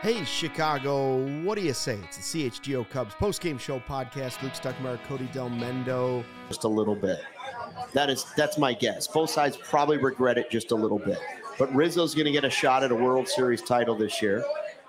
Hey, Chicago, what do you say? It's the CHGO Cubs post-game show podcast. Luke Stuckmeyer, Cody Del Mendo. Just a little bit. That's my guess. Both sides probably regret it just a little bit. But Rizzo's going to get a shot at a World Series title this year.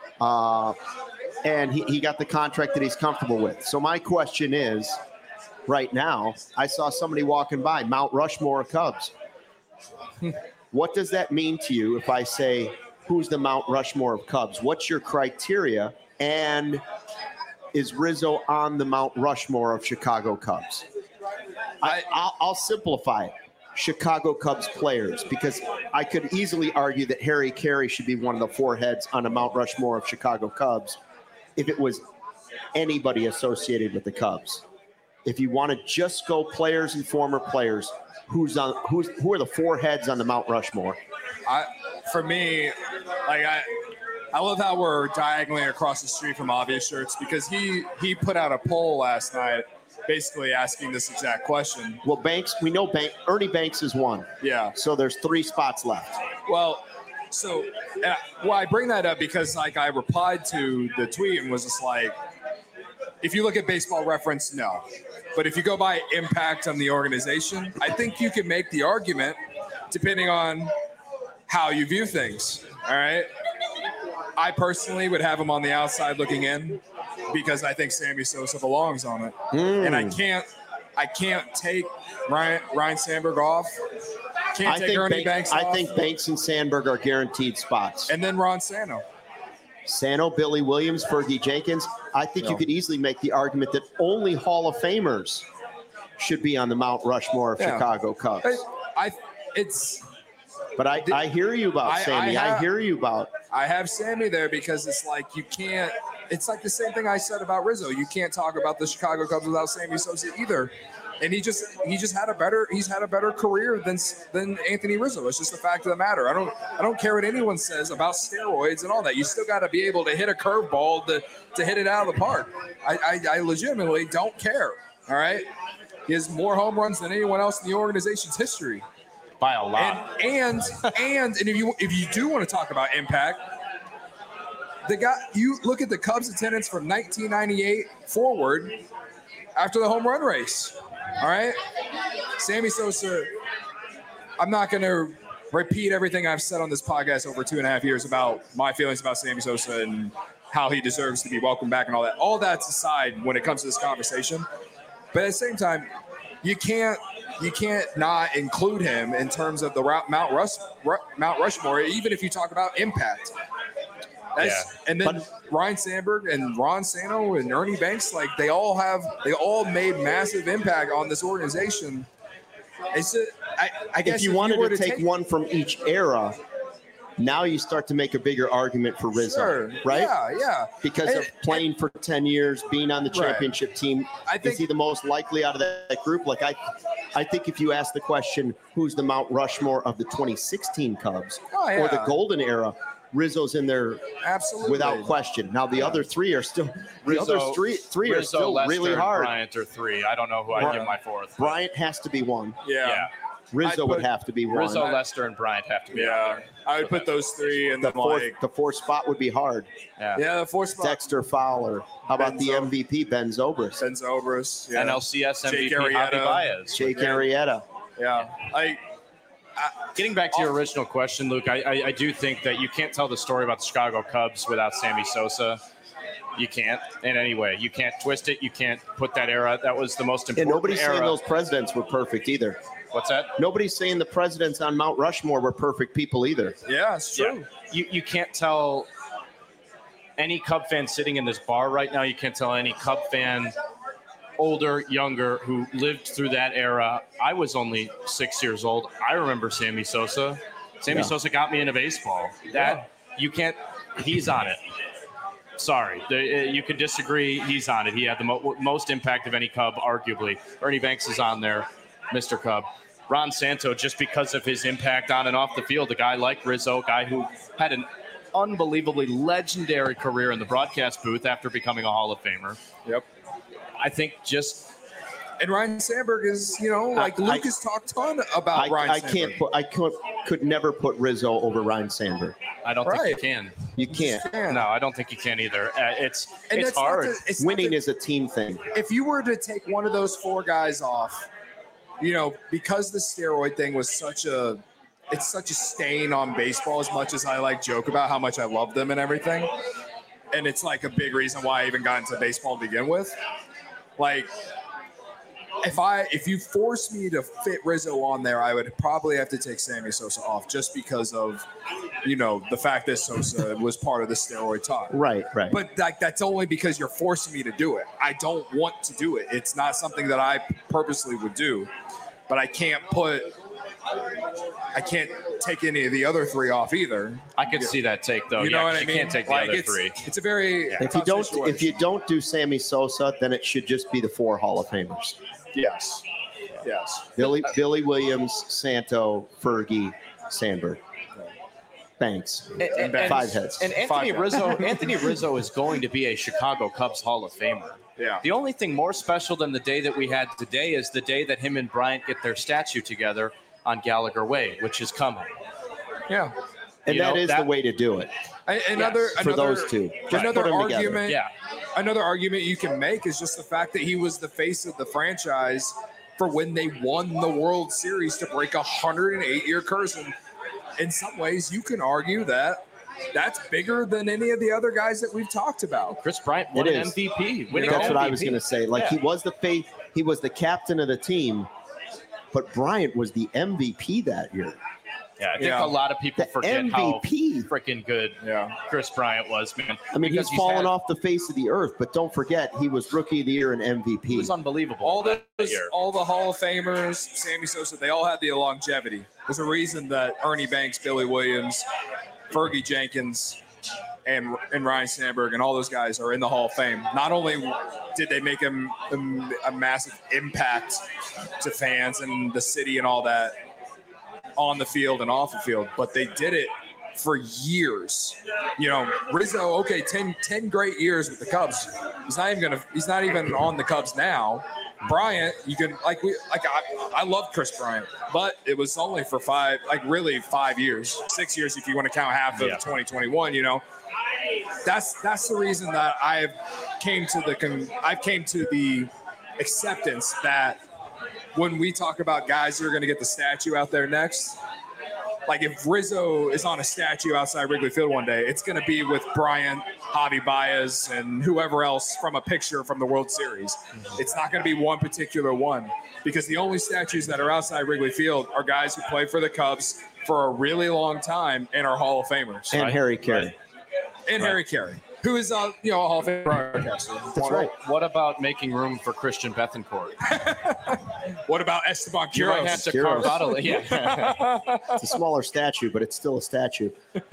And he got the contract that he's comfortable with. So my question is, right now, I saw somebody walking by, Mount Rushmore Cubs. What does that mean to you if I say, who's the Mount Rushmore of Cubs? What's your criteria? And is Rizzo on the Mount Rushmore of Chicago Cubs? I'll simplify it. Chicago Cubs players, because I could easily argue that Harry Carey should be one of the four heads on a Mount Rushmore of Chicago Cubs if it was anybody associated with the Cubs. If you want to just go players and former players, who are the four heads on the Mount Rushmore? For me, I love how we're diagonally across the street from Obvious Shirts, because he put out a poll last night basically asking this exact question. Well, Ernie Banks is one. Yeah. So there's 3 spots left. Well, I bring that up because I replied to the tweet and was just like, if you look at Baseball Reference, no. But if you go by impact on the organization, I think you could make the argument depending on how you view things. All right. I personally would have him on the outside looking in because I think Sammy Sosa belongs on it. And I can't take Ryan Sandberg off. Can't take Ernie Banks off. I think Banks and Sandberg are guaranteed spots. And then Ron Santo. Sano, Billy Williams, Fergie Jenkins. I think you could easily make the argument that only Hall of Famers should be on the Mount Rushmore of Chicago Cubs. But I hear you about Sammy. I hear you about. I have Sammy there because it's like you can't. It's like the same thing I said about Rizzo. You can't talk about the Chicago Cubs without Sammy Sosa either. And he's had a better career than Anthony Rizzo. It's just the fact of the matter. I don't care what anyone says about steroids and all that. You still got to be able to hit a curveball to hit it out of the park. I legitimately don't care. All right, he has more home runs than anyone else in the organization's history by a lot. And if you do want to talk about impact, you look at the Cubs attendance from 1998 forward after the home run race. All right, Sammy Sosa, I'm not going to repeat everything I've said on this podcast over 2.5 years about my feelings about Sammy Sosa and how he deserves to be welcomed back and all that. All that's aside when it comes to this conversation. But at the same time, you can't not include him in terms of the Mount Rushmore, even if you talk about impact. And then Ryan Sandberg and Ron Santo and Ernie Banks, they all made massive impact on this organization. It's I guess if you wanted to take one from each era, now you start to make a bigger argument for Rizzo, right? Yeah. Because of playing for 10 years, being on the championship team, is he the most likely out of that group? I think if you ask the question, who's the Mount Rushmore of the 2016 Cubs or the golden era, Rizzo's in there without question. Now the other three are still Rizzo, three are still Lester, really hard. Bryant are 3. I don't know who I'd give my 4th. Bryant has to be 1. Yeah. Rizzo would have to be 1. Rizzo, Lester, and Bryant have to be. Yeah. I would put those 3 in the fourth spot would be hard. Yeah, the 4th spot. Dexter Fowler. How about the MVP, Ben Zobrist? Yeah. NLCS MVP, Javi Baez. Jake Arrieta. Yeah. Getting back to your original question, Luke, I do think that you can't tell the story about the Chicago Cubs without Sammy Sosa. You can't in any way. You can't twist it. You can't put that era. That was the most important era. And nobody's saying those presidents were perfect either. What's that? Nobody's saying the presidents on Mount Rushmore were perfect people either. Yeah, it's true. Yeah. You can't tell any Cub fan sitting in this bar right now. You can't tell any Cub fan, older, younger, who lived through that era. I was only 6 years old. I remember Sammy Sosa. Sammy Sosa got me into baseball. You can't. He's on it. Sorry, you can disagree. He's on it. He had the most impact of any Cub, arguably. Ernie Banks is on there, Mr. Cub. Ron Santo, just because of his impact on and off the field, a guy like Rizzo, a guy who had an unbelievably legendary career in the broadcast booth after becoming a Hall of Famer. Yep. I think just And Ryan Sandberg is, like Luke has talked a ton about Ryan Sandberg. I could never put Rizzo over Ryan Sandberg. I don't think you can. You can't. No, I don't think you can either. It's that's hard. Winning is a team thing. If you were to take one of those 4 guys off, because the steroid thing was such a stain on baseball, as much as I joke about how much I love them and everything. And it's like a big reason why I even got into baseball to begin with. Like, if you force me to fit Rizzo on there, I would probably have to take Sammy Sosa off just because of, the fact that Sosa was part of the steroid talk. Right. But that's only because you're forcing me to do it. I don't want to do it. It's not something that I purposely would do. But I can't take any of the other 3 off either. I could see that take though. You know what I mean? Can't take the other 3. It's a very if you don't do Sammy Sosa, then it should just be the 4 Hall of Famers. Yes. Billy Williams, Santo, Fergie, Sandberg. Thanks. And 5 heads. And Anthony Rizzo is going to be a Chicago Cubs Hall of Famer. Yeah. The only thing more special than the day that we had today is the day that him and Bryant get their statue together on Gallagher Way, which is coming. Yeah. And that is the way to do it. For those 2. Just put them argument. together. Another argument you can make is just the fact that he was the face of the franchise for when they won the World Series to break a 108-year curse. And in some ways, you can argue that that's bigger than any of the other guys that we've talked about. Chris Bryant won an MVP. That's what I was going to say. He was the face. He was the captain of the team, but Bryant was the MVP that year. Yeah, I think a lot of people forget how freaking good Yeah. Chris Bryant was, man. I mean, he's fallen off the face of the earth, but don't forget, he was Rookie of the Year and MVP. He was unbelievable. All the Hall of Famers, Sammy Sosa, they all had the longevity. There's a reason that Ernie Banks, Billy Williams, Fergie Jenkins, and Ryan Sandberg and all those guys are in the Hall of Fame. Not only did they make a massive impact to fans and the city and all that on the field and off the field, but they did it for years. Rizzo, okay, 10 great years with the Cubs. He's not even on the Cubs now. Bryant, I love Chris Bryant, but it was only for 5 years, 6 years if you want to count half of 2021. That's the reason that I've came to the acceptance that when we talk about guys that are going to get the statue out there next, if Rizzo is on a statue outside Wrigley Field one day, it's going to be with Bryant, Javi Baez, and whoever else from a picture from the World Series. It's not going to be one particular one, because the only statues that are outside Wrigley Field are guys who played for the Cubs for a really long time and are Hall of Famers. And Harry Carey. Harry Carey, who is a Hall of Fame broadcaster. That's right. What about making room for Christian Bethancourt? What about Esteban Quiroz? You might have to carve out a It's a smaller statue, but it's still a statue.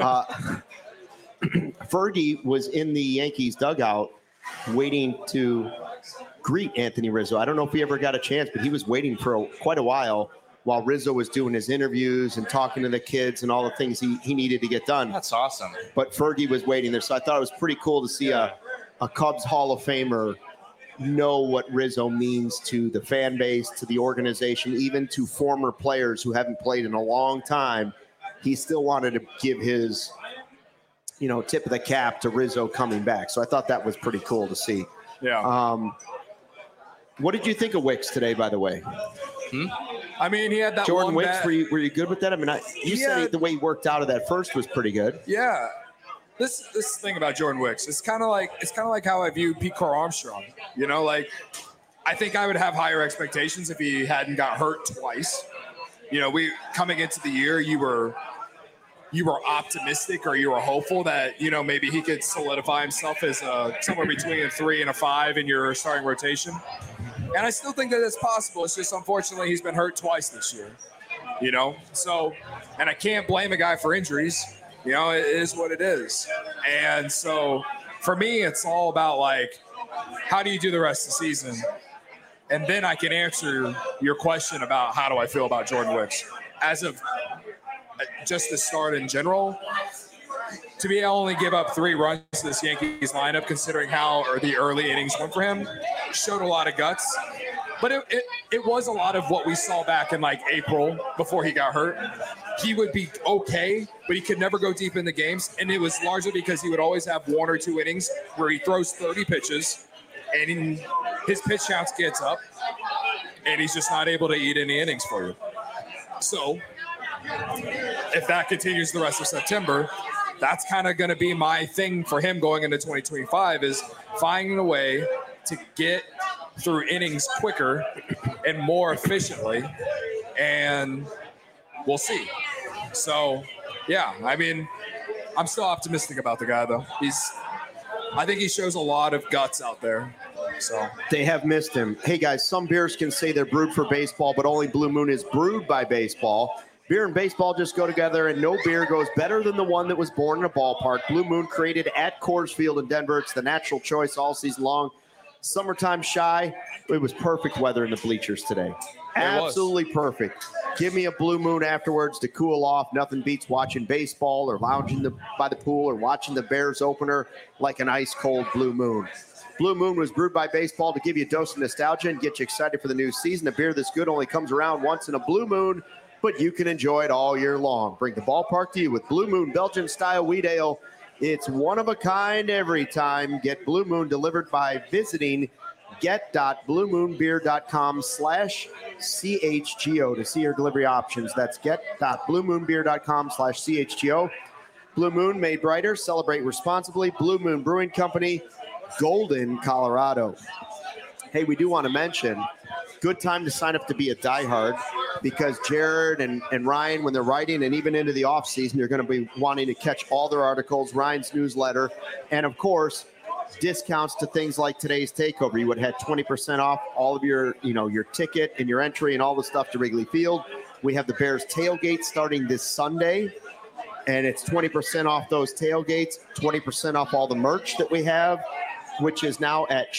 Fergie was in the Yankees dugout waiting to greet Anthony Rizzo. I don't know if he ever got a chance, but he was waiting for quite a while Rizzo was doing his interviews and talking to the kids and all the things he needed to get done. That's awesome. But Fergie was waiting there. So I thought it was pretty cool to see a Cubs Hall of Famer know what Rizzo means to the fan base, to the organization, even to former players who haven't played in a long time. He still wanted to give his, tip of the cap to Rizzo coming back. So I thought that was pretty cool to see. Yeah. What did you think of Wicks today, by the way? I mean, he had that Jordan one Wicks. bat. Were you good with that? I mean, you said the way he worked out of that first was pretty good. Yeah. This thing about Jordan Wicks, it's kind of like how I view Pete Crow Armstrong. I think I would have higher expectations if he hadn't got hurt twice. We coming into the year, you were optimistic or you were hopeful that maybe he could solidify himself as somewhere between a 3 and a 5 in your starting rotation. And I still think that it's possible. It's just unfortunately he's been hurt twice this year. So, and I can't blame a guy for injuries. It is what it is. And so for me, it's all about how do you do the rest of the season? And then I can answer your question about how do I feel about Jordan Wicks. As of just the start in general, to be able to only give up 3 runs to this Yankees lineup, considering how the early innings went for him, showed a lot of guts. But it was a lot of what we saw back in like April before he got hurt. He would be okay, but he could never go deep in the games. And it was largely because he would always have 1 or 2 innings where he throws 30 pitches and his pitch counts gets up and he's just not able to eat any innings for you. So if that continues the rest of September, that's kind of going to be my thing for him going into 2025 is finding a way to get through innings quicker and more efficiently, and we'll see. So, yeah, I mean, I'm still optimistic about the guy, though. I think he shows a lot of guts out there. So they have missed him. Hey, guys, some beers can say they're brewed for baseball, but only Blue Moon is brewed by baseball. Beer and baseball just go together, and no beer goes better than the one that was born in a ballpark. Blue Moon, created at Coors Field in Denver. It's the natural choice all season long. Summertime shy. It was perfect weather in the bleachers today. Absolutely perfect. Give me a Blue Moon afterwards to cool off. Nothing beats watching baseball or lounging by the pool or watching the Bears opener like an ice-cold Blue Moon. Blue Moon was brewed by baseball to give you a dose of nostalgia and get you excited for the new season. A beer this good only comes around once in a Blue Moon, but you can enjoy it all year long. Bring the ballpark to you with Blue Moon Belgian-style wheat ale. It's one of a kind every time. Get Blue Moon delivered by visiting get.bluemoonbeer.com/CHGO to see your delivery options. That's get.bluemoonbeer.com/CHGO. Blue Moon, made brighter. Celebrate responsibly. Blue Moon Brewing Company, Golden, Colorado. Hey, we do want to mention, good time to sign up to be a diehard, because Jared and Ryan, when they're writing and even into the off season, you're going to be wanting to catch all their articles, Ryan's newsletter, and of course, discounts to things like today's takeover. You would have had 20% off all of your ticket and your entry and all the stuff to Wrigley Field. We have the Bears tailgate starting this Sunday, and it's 20% off those tailgates, 20% off all the merch that we have, which is now at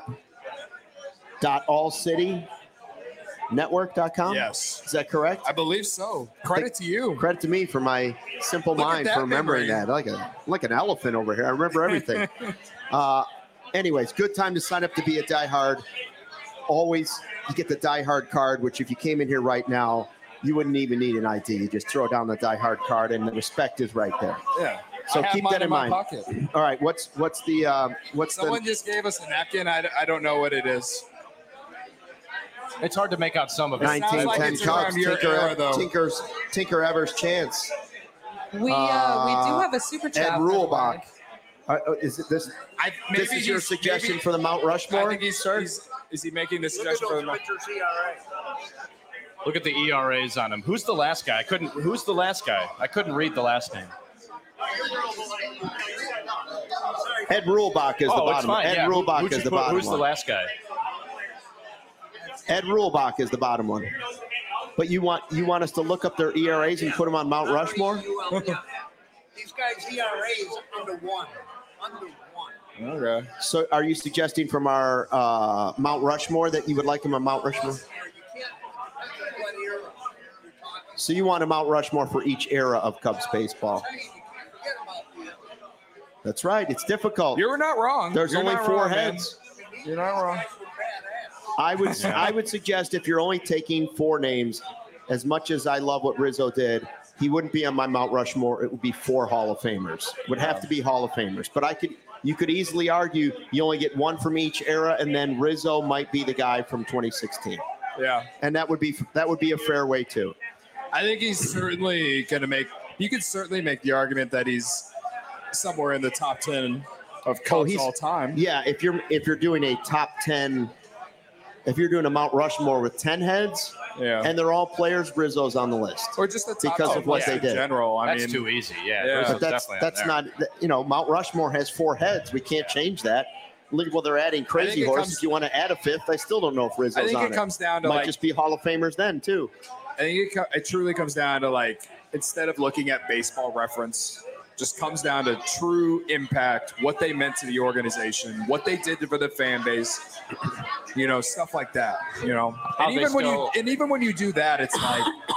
shop.allcitynetwork.com. Yes. Is that correct? I believe so. Credit to you. Credit to me for my simple mind for remembering that. Like an elephant over here. I remember everything. Anyways, good time to sign up to be a diehard. Always, you get the diehard card, which if you came in here right now, you wouldn't even need an ID. You just throw down the diehard card, and the respect is right there. Yeah. So keep that in mind. Pocket. All right. What's Someone just gave us a napkin. I don't know what it is. It's hard to make out some of it. 1910 Cubs. Tinker Evers chance. We do have a super chat. Ed Rulebach. Is it this? This is your suggestion for the Mount Rushmore? I think is he making the suggestion for the Mount? Look at the ERAs on him. Who's the last guy? Who's the last guy? I couldn't read the last name. Ed Rulebach is the bottom. Ed Rulebach is the bottom. Who's the last guy? Ed Rulebach is the bottom one. But you want us to look up their ERAs and put them on Mount Rushmore? These guys' ERAs under one. Okay. So are you suggesting from our Mount Rushmore that you would like them on Mount Rushmore? So you want a Mount Rushmore for each era of Cubs baseball. That's right. It's difficult. You're not wrong. There's You're only not 4 wrong, heads. Man. You're not wrong. I would suggest if you're only taking 4 names, as much as I love what Rizzo did, he wouldn't be on my Mount Rushmore. It would be 4 Hall of Famers. Would have to be Hall of Famers. But you could easily argue you only get 1 from each era, and then Rizzo might be the guy from 2016. Yeah. And that would be a fair way too. I think he's certainly going to you could certainly make the argument that he's somewhere in the top 10 of Cubs all time. Yeah, if you're doing a top 10, if you're doing a Mount Rushmore with 10 heads, and they're all players, Rizzo's on the list. Or just the top because of what they did. In general, that's too easy. Yeah. But that's not. Mount Rushmore has 4 heads. We can't change that. Well, they're adding Crazy Horse. If you want to add a 5th, I still don't know if Rizzo's on it. I think it comes down to might just be Hall of Famers then too. I think it truly comes down to instead of looking at Baseball Reference, just comes down to true impact, what they meant to the organization, what they did for the fan base, stuff like that. And even when you do that, it's like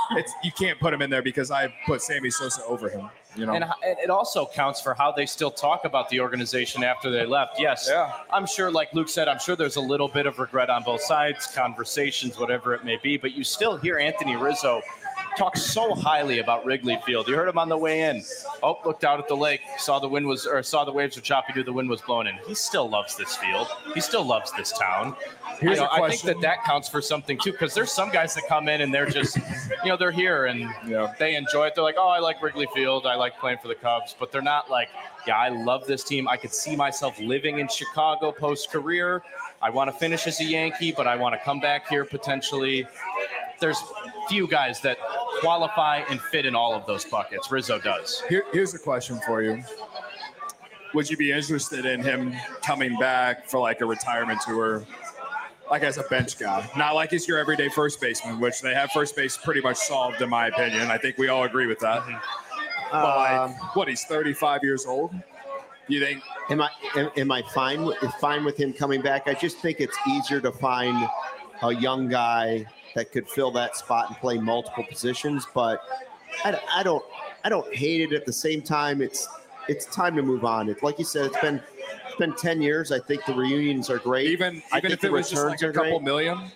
you can't put him in there because I put Sammy Sosa over him. You know, And it also counts for how they still talk about the organization after they left. Yes, Yeah. I'm sure, like Luke said, I'm sure there's a little bit of regret on both sides, conversations, whatever it may be, but you still hear Anthony Rizzo talk so highly about Wrigley Field. You heard him on the way in. Oh, looked out at the lake, saw the waves were choppy, knew the wind was blowing in. He still loves this field. He still loves this town. Here's a I think question. that counts for something too, because there's some guys that come in and they're just, they're here and they enjoy it. They're like, oh, I like Wrigley Field. I like playing for the Cubs, but they're not like, yeah, I love this team. I could see myself living in Chicago post-career. I want to finish as a Yankee, but I want to come back here potentially. There's few guys that qualify and fit in all of those buckets. Rizzo does. Here's a question for you. Would you be interested in him coming back for like a retirement tour, like as a bench guy? Not like he's your everyday first baseman, which they have first base pretty much solved in my opinion. I think we all agree with that. But like, he's 35 years old? You think? Am I fine with him coming back? I just think it's easier to find a young guy that could fill that spot and play multiple positions. But I don't hate it. At the same time, it's time to move on. Like you said, it's been 10 years. I think the reunions are great. Even I think if it the was just like returns a are couple great. million?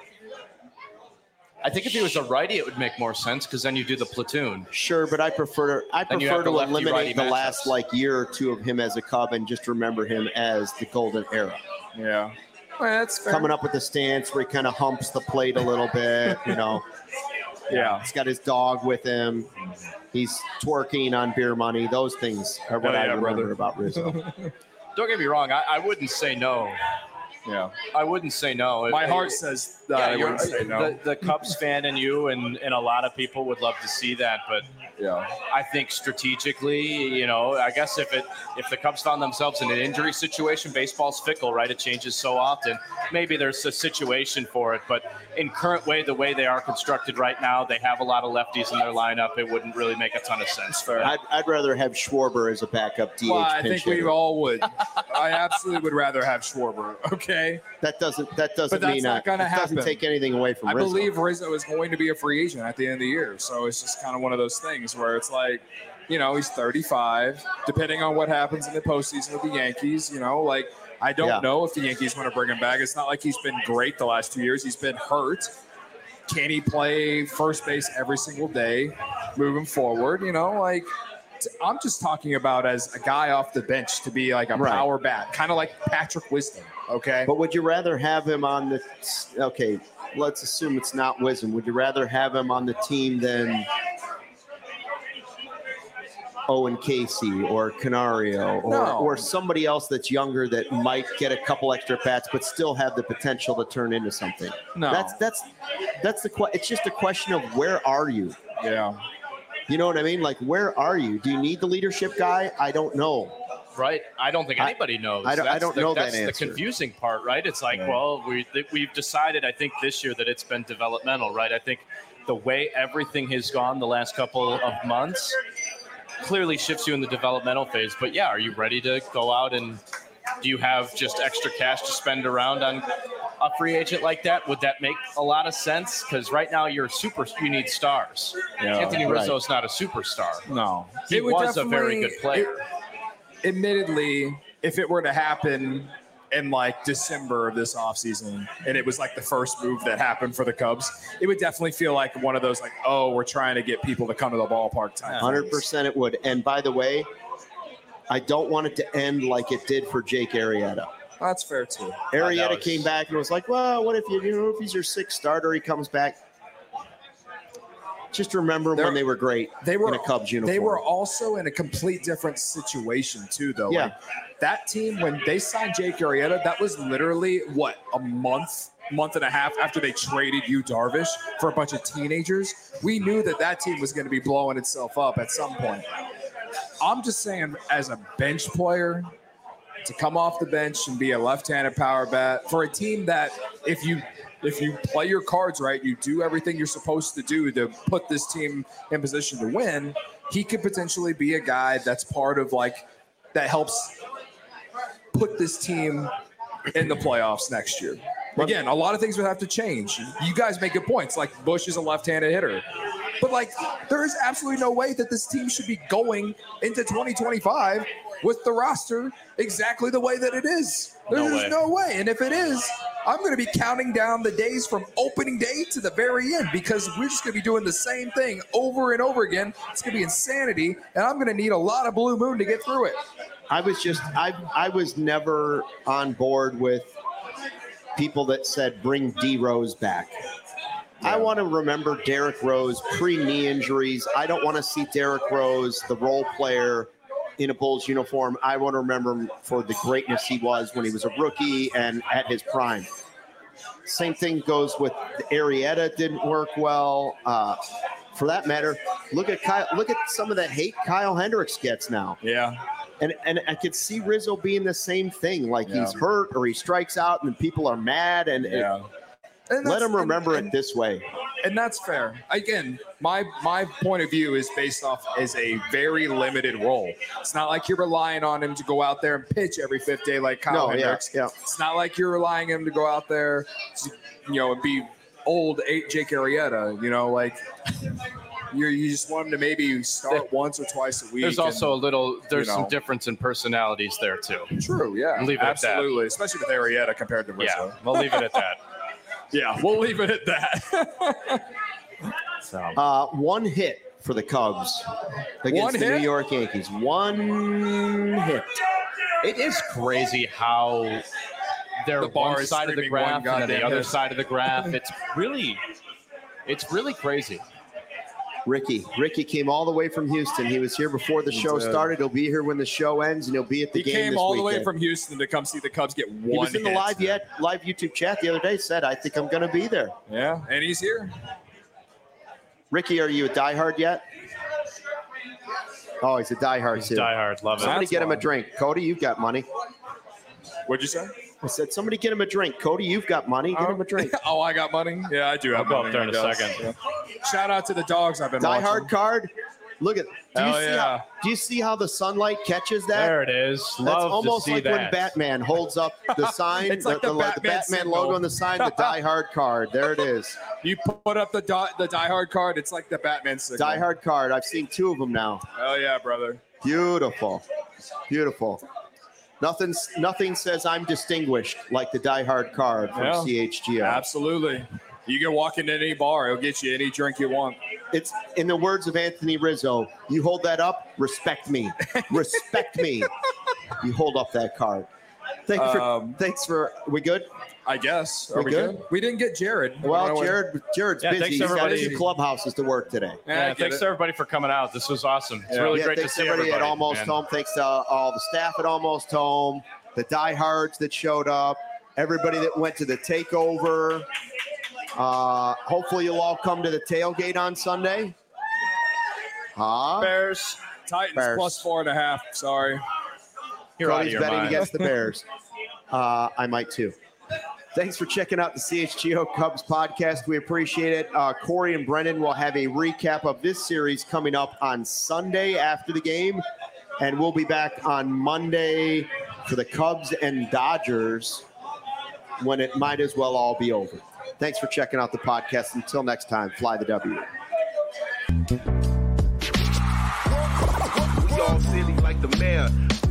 I think if he was a righty, it would make more sense because then you do the platoon. Sure, but I prefer Then you have to the lefty-righty eliminate the last matchups. year or two of him as a Cub and just remember him as the golden era. Yeah. Well, that's fair. Coming up with the stance where he kind of humps the plate a little bit, Yeah. He's got his dog with him. He's twerking on beer money. Those things are what Hell I yeah, remember brother. about Rizzo. Don't get me wrong. I wouldn't say no. Yeah. I wouldn't say no. My heart says that I wouldn't say no. The Cubs fan in you and a lot of people would love to see that, but Yeah. I think strategically, I guess if the Cubs found themselves in an injury situation, baseball's fickle, right? It changes so often. Maybe there's a situation for it, but in the way they are constructed right now, they have a lot of lefties in their lineup. It wouldn't really make a ton of sense. Fair. I'd rather have Schwarber as a backup DH Well, I pinch think we hitter. all would. I absolutely would rather have Schwarber. Okay. That doesn't But that's mean not gonna it doesn't happen. take anything away from I Rizzo. believe Rizzo is going to be a free agent at the end of the year. So it's just kind of one of those things where it's like, he's 35. Depending on what happens in the postseason with the Yankees, I don't know if the Yankees want to bring him back. It's not like he's been great the last 2 years. He's been hurt. Can he play first base every single day moving forward? I'm just talking about as a guy off the bench to be like a Right. power bat, kind of like Patrick Wisdom. Okay. But would you rather have him on the – okay, let's assume it's not Wisdom. Would you rather have him on the team than Owen Casey or Canario or somebody else that's younger that might get a couple extra bats but still have the potential to turn into something? No. That's it's just a question of where are you? Yeah. You know what I mean? Like, where are you? Do you need the leadership guy? I don't know. Right? I don't think anybody knows. I don't know that That's answer. the confusing part, right? It's like, well, we've decided, I think, this year that it's been developmental, right? I think the way everything has gone the last couple of months clearly shifts you in the developmental phase. But yeah, are you ready to go out and do you have just extra cash to spend around on a free agent like that? Would that make a lot of sense? Because right now you need stars. Yeah, Anthony right. Rizzo is not a superstar. No. He It would was a very definitely- good player. Admittedly, if it were to happen in like December of this offseason and it was like the first move that happened for the Cubs, it would definitely feel like one of those like, oh, we're trying to get people to come to the ballpark type. 100% it would. And by the way, I don't want it to end like it did for Jake Arrieta. That's fair too. Arrieta was- came back and was like, well, what if if he's your sixth starter, he comes back. Just remember when they were great in a Cubs uniform. They were also in a complete different situation too, though. Yeah. Like, that team, when they signed Jake Arrieta, that was literally a month and a half after they traded Yu Darvish for a bunch of teenagers. We knew that team was going to be blowing itself up at some point. I'm just saying, as a bench player, to come off the bench and be a left-handed power bat for a team that if you play your cards right, you do everything you're supposed to do to put this team in position to win, he could potentially be a guy that's part of that helps put this team in the playoffs next year. Again, a lot of things would have to change. You guys make good points. Like Bush is a left-handed hitter. But like, there is absolutely no way that this team should be going into 2025 with the roster exactly the way that it is. There's no way. And if it is, I'm going to be counting down the days from opening day to the very end, because we're just going to be doing the same thing over and over again. It's going to be insanity, and I'm going to need a lot of blue moon to get through it. I was never on board with people that said bring D Rose back. I want to remember Derrick Rose pre-knee injuries. I don't want to see Derrick Rose, the role player, in a Bulls uniform. I want to remember him for the greatness he was when he was a rookie and at his prime. Same thing goes with Arrieta. Didn't work well. For that matter, look at some of the hate Kyle Hendricks gets now. Yeah. And I could see Rizzo being the same thing. Like he's hurt or he strikes out and people are mad. And let him remember it this way. And that's fair. Again, my point of view is based off as a very limited role. It's not like you're relying on him to go out there and pitch every fifth day like Kyle Hendricks. Yeah. It's not like you're relying on him to go out there, and be old Jake Arrieta. Like you just want him to maybe start once or twice a week. There's also some difference in personalities there too. True. Yeah. Leave it absolutely, at that. Especially with Arrieta compared to Rizzo. Yeah, we'll leave it at that. Yeah, we'll leave it at that. One hit for the Cubs against the New York Yankees. One hit. It is crazy how they're one side of the graph and then the other side of the graph. It's really crazy. Ricky came all the way from Houston. He was here before the show started. He'll be here when the show ends, and he'll be at the game this weekend. He came all the way from Houston to come see the Cubs get one hit. He was in the live YouTube chat the other day, said, I think I'm going to be there. Yeah, and he's here. Ricky, are you a diehard yet? Oh, he's a diehard He's too. diehard, love it. Somebody get him a drink. Cody, you've got money. What'd you say? I said, somebody get him a drink. Cody, you've got money. Get him a drink. Oh, I got money? Yeah, I do have money. I'll go up there in a second. Yeah. Shout out to the dogs I've been watching. watching. Diehard card. Look at. Do you see how the sunlight catches that? There it is. That's Love almost to see like that. when Batman holds up the sign. It's like the Batman logo on the sign. The diehard card. There it is. You put up the diehard card. It's like the Batman signal. Diehard card. I've seen two of them now. Oh yeah, brother. Beautiful. Nothing says I'm distinguished like the diehard card from CHGO. Absolutely. You can walk into any bar, it'll get you any drink you want. It's in the words of Anthony Rizzo, you hold that up, respect me. Respect me. You hold up that card. Thanks for we good? I guess. Are we good? We didn't get Jared. Well, Jared's busy. He's got 2 clubhouses to work today. Thanks to everybody for coming out. This was awesome. It's really great to see everybody at Almost Home. Thanks to all the staff at Almost Home, the diehards that showed up, everybody that went to the takeover. Hopefully you'll all come to the tailgate on Sunday. Bears. Titans plus 4.5. Sorry. Cody's betting against the Bears. I might too. Thanks for checking out the CHGO Cubs podcast. We appreciate it. Corey and Brendan will have a recap of this series coming up on Sunday after the game. And we'll be back on Monday for the Cubs and Dodgers when it might as well all be over. Thanks for checking out the podcast. Until next time, fly the W. We all silly like the mayor.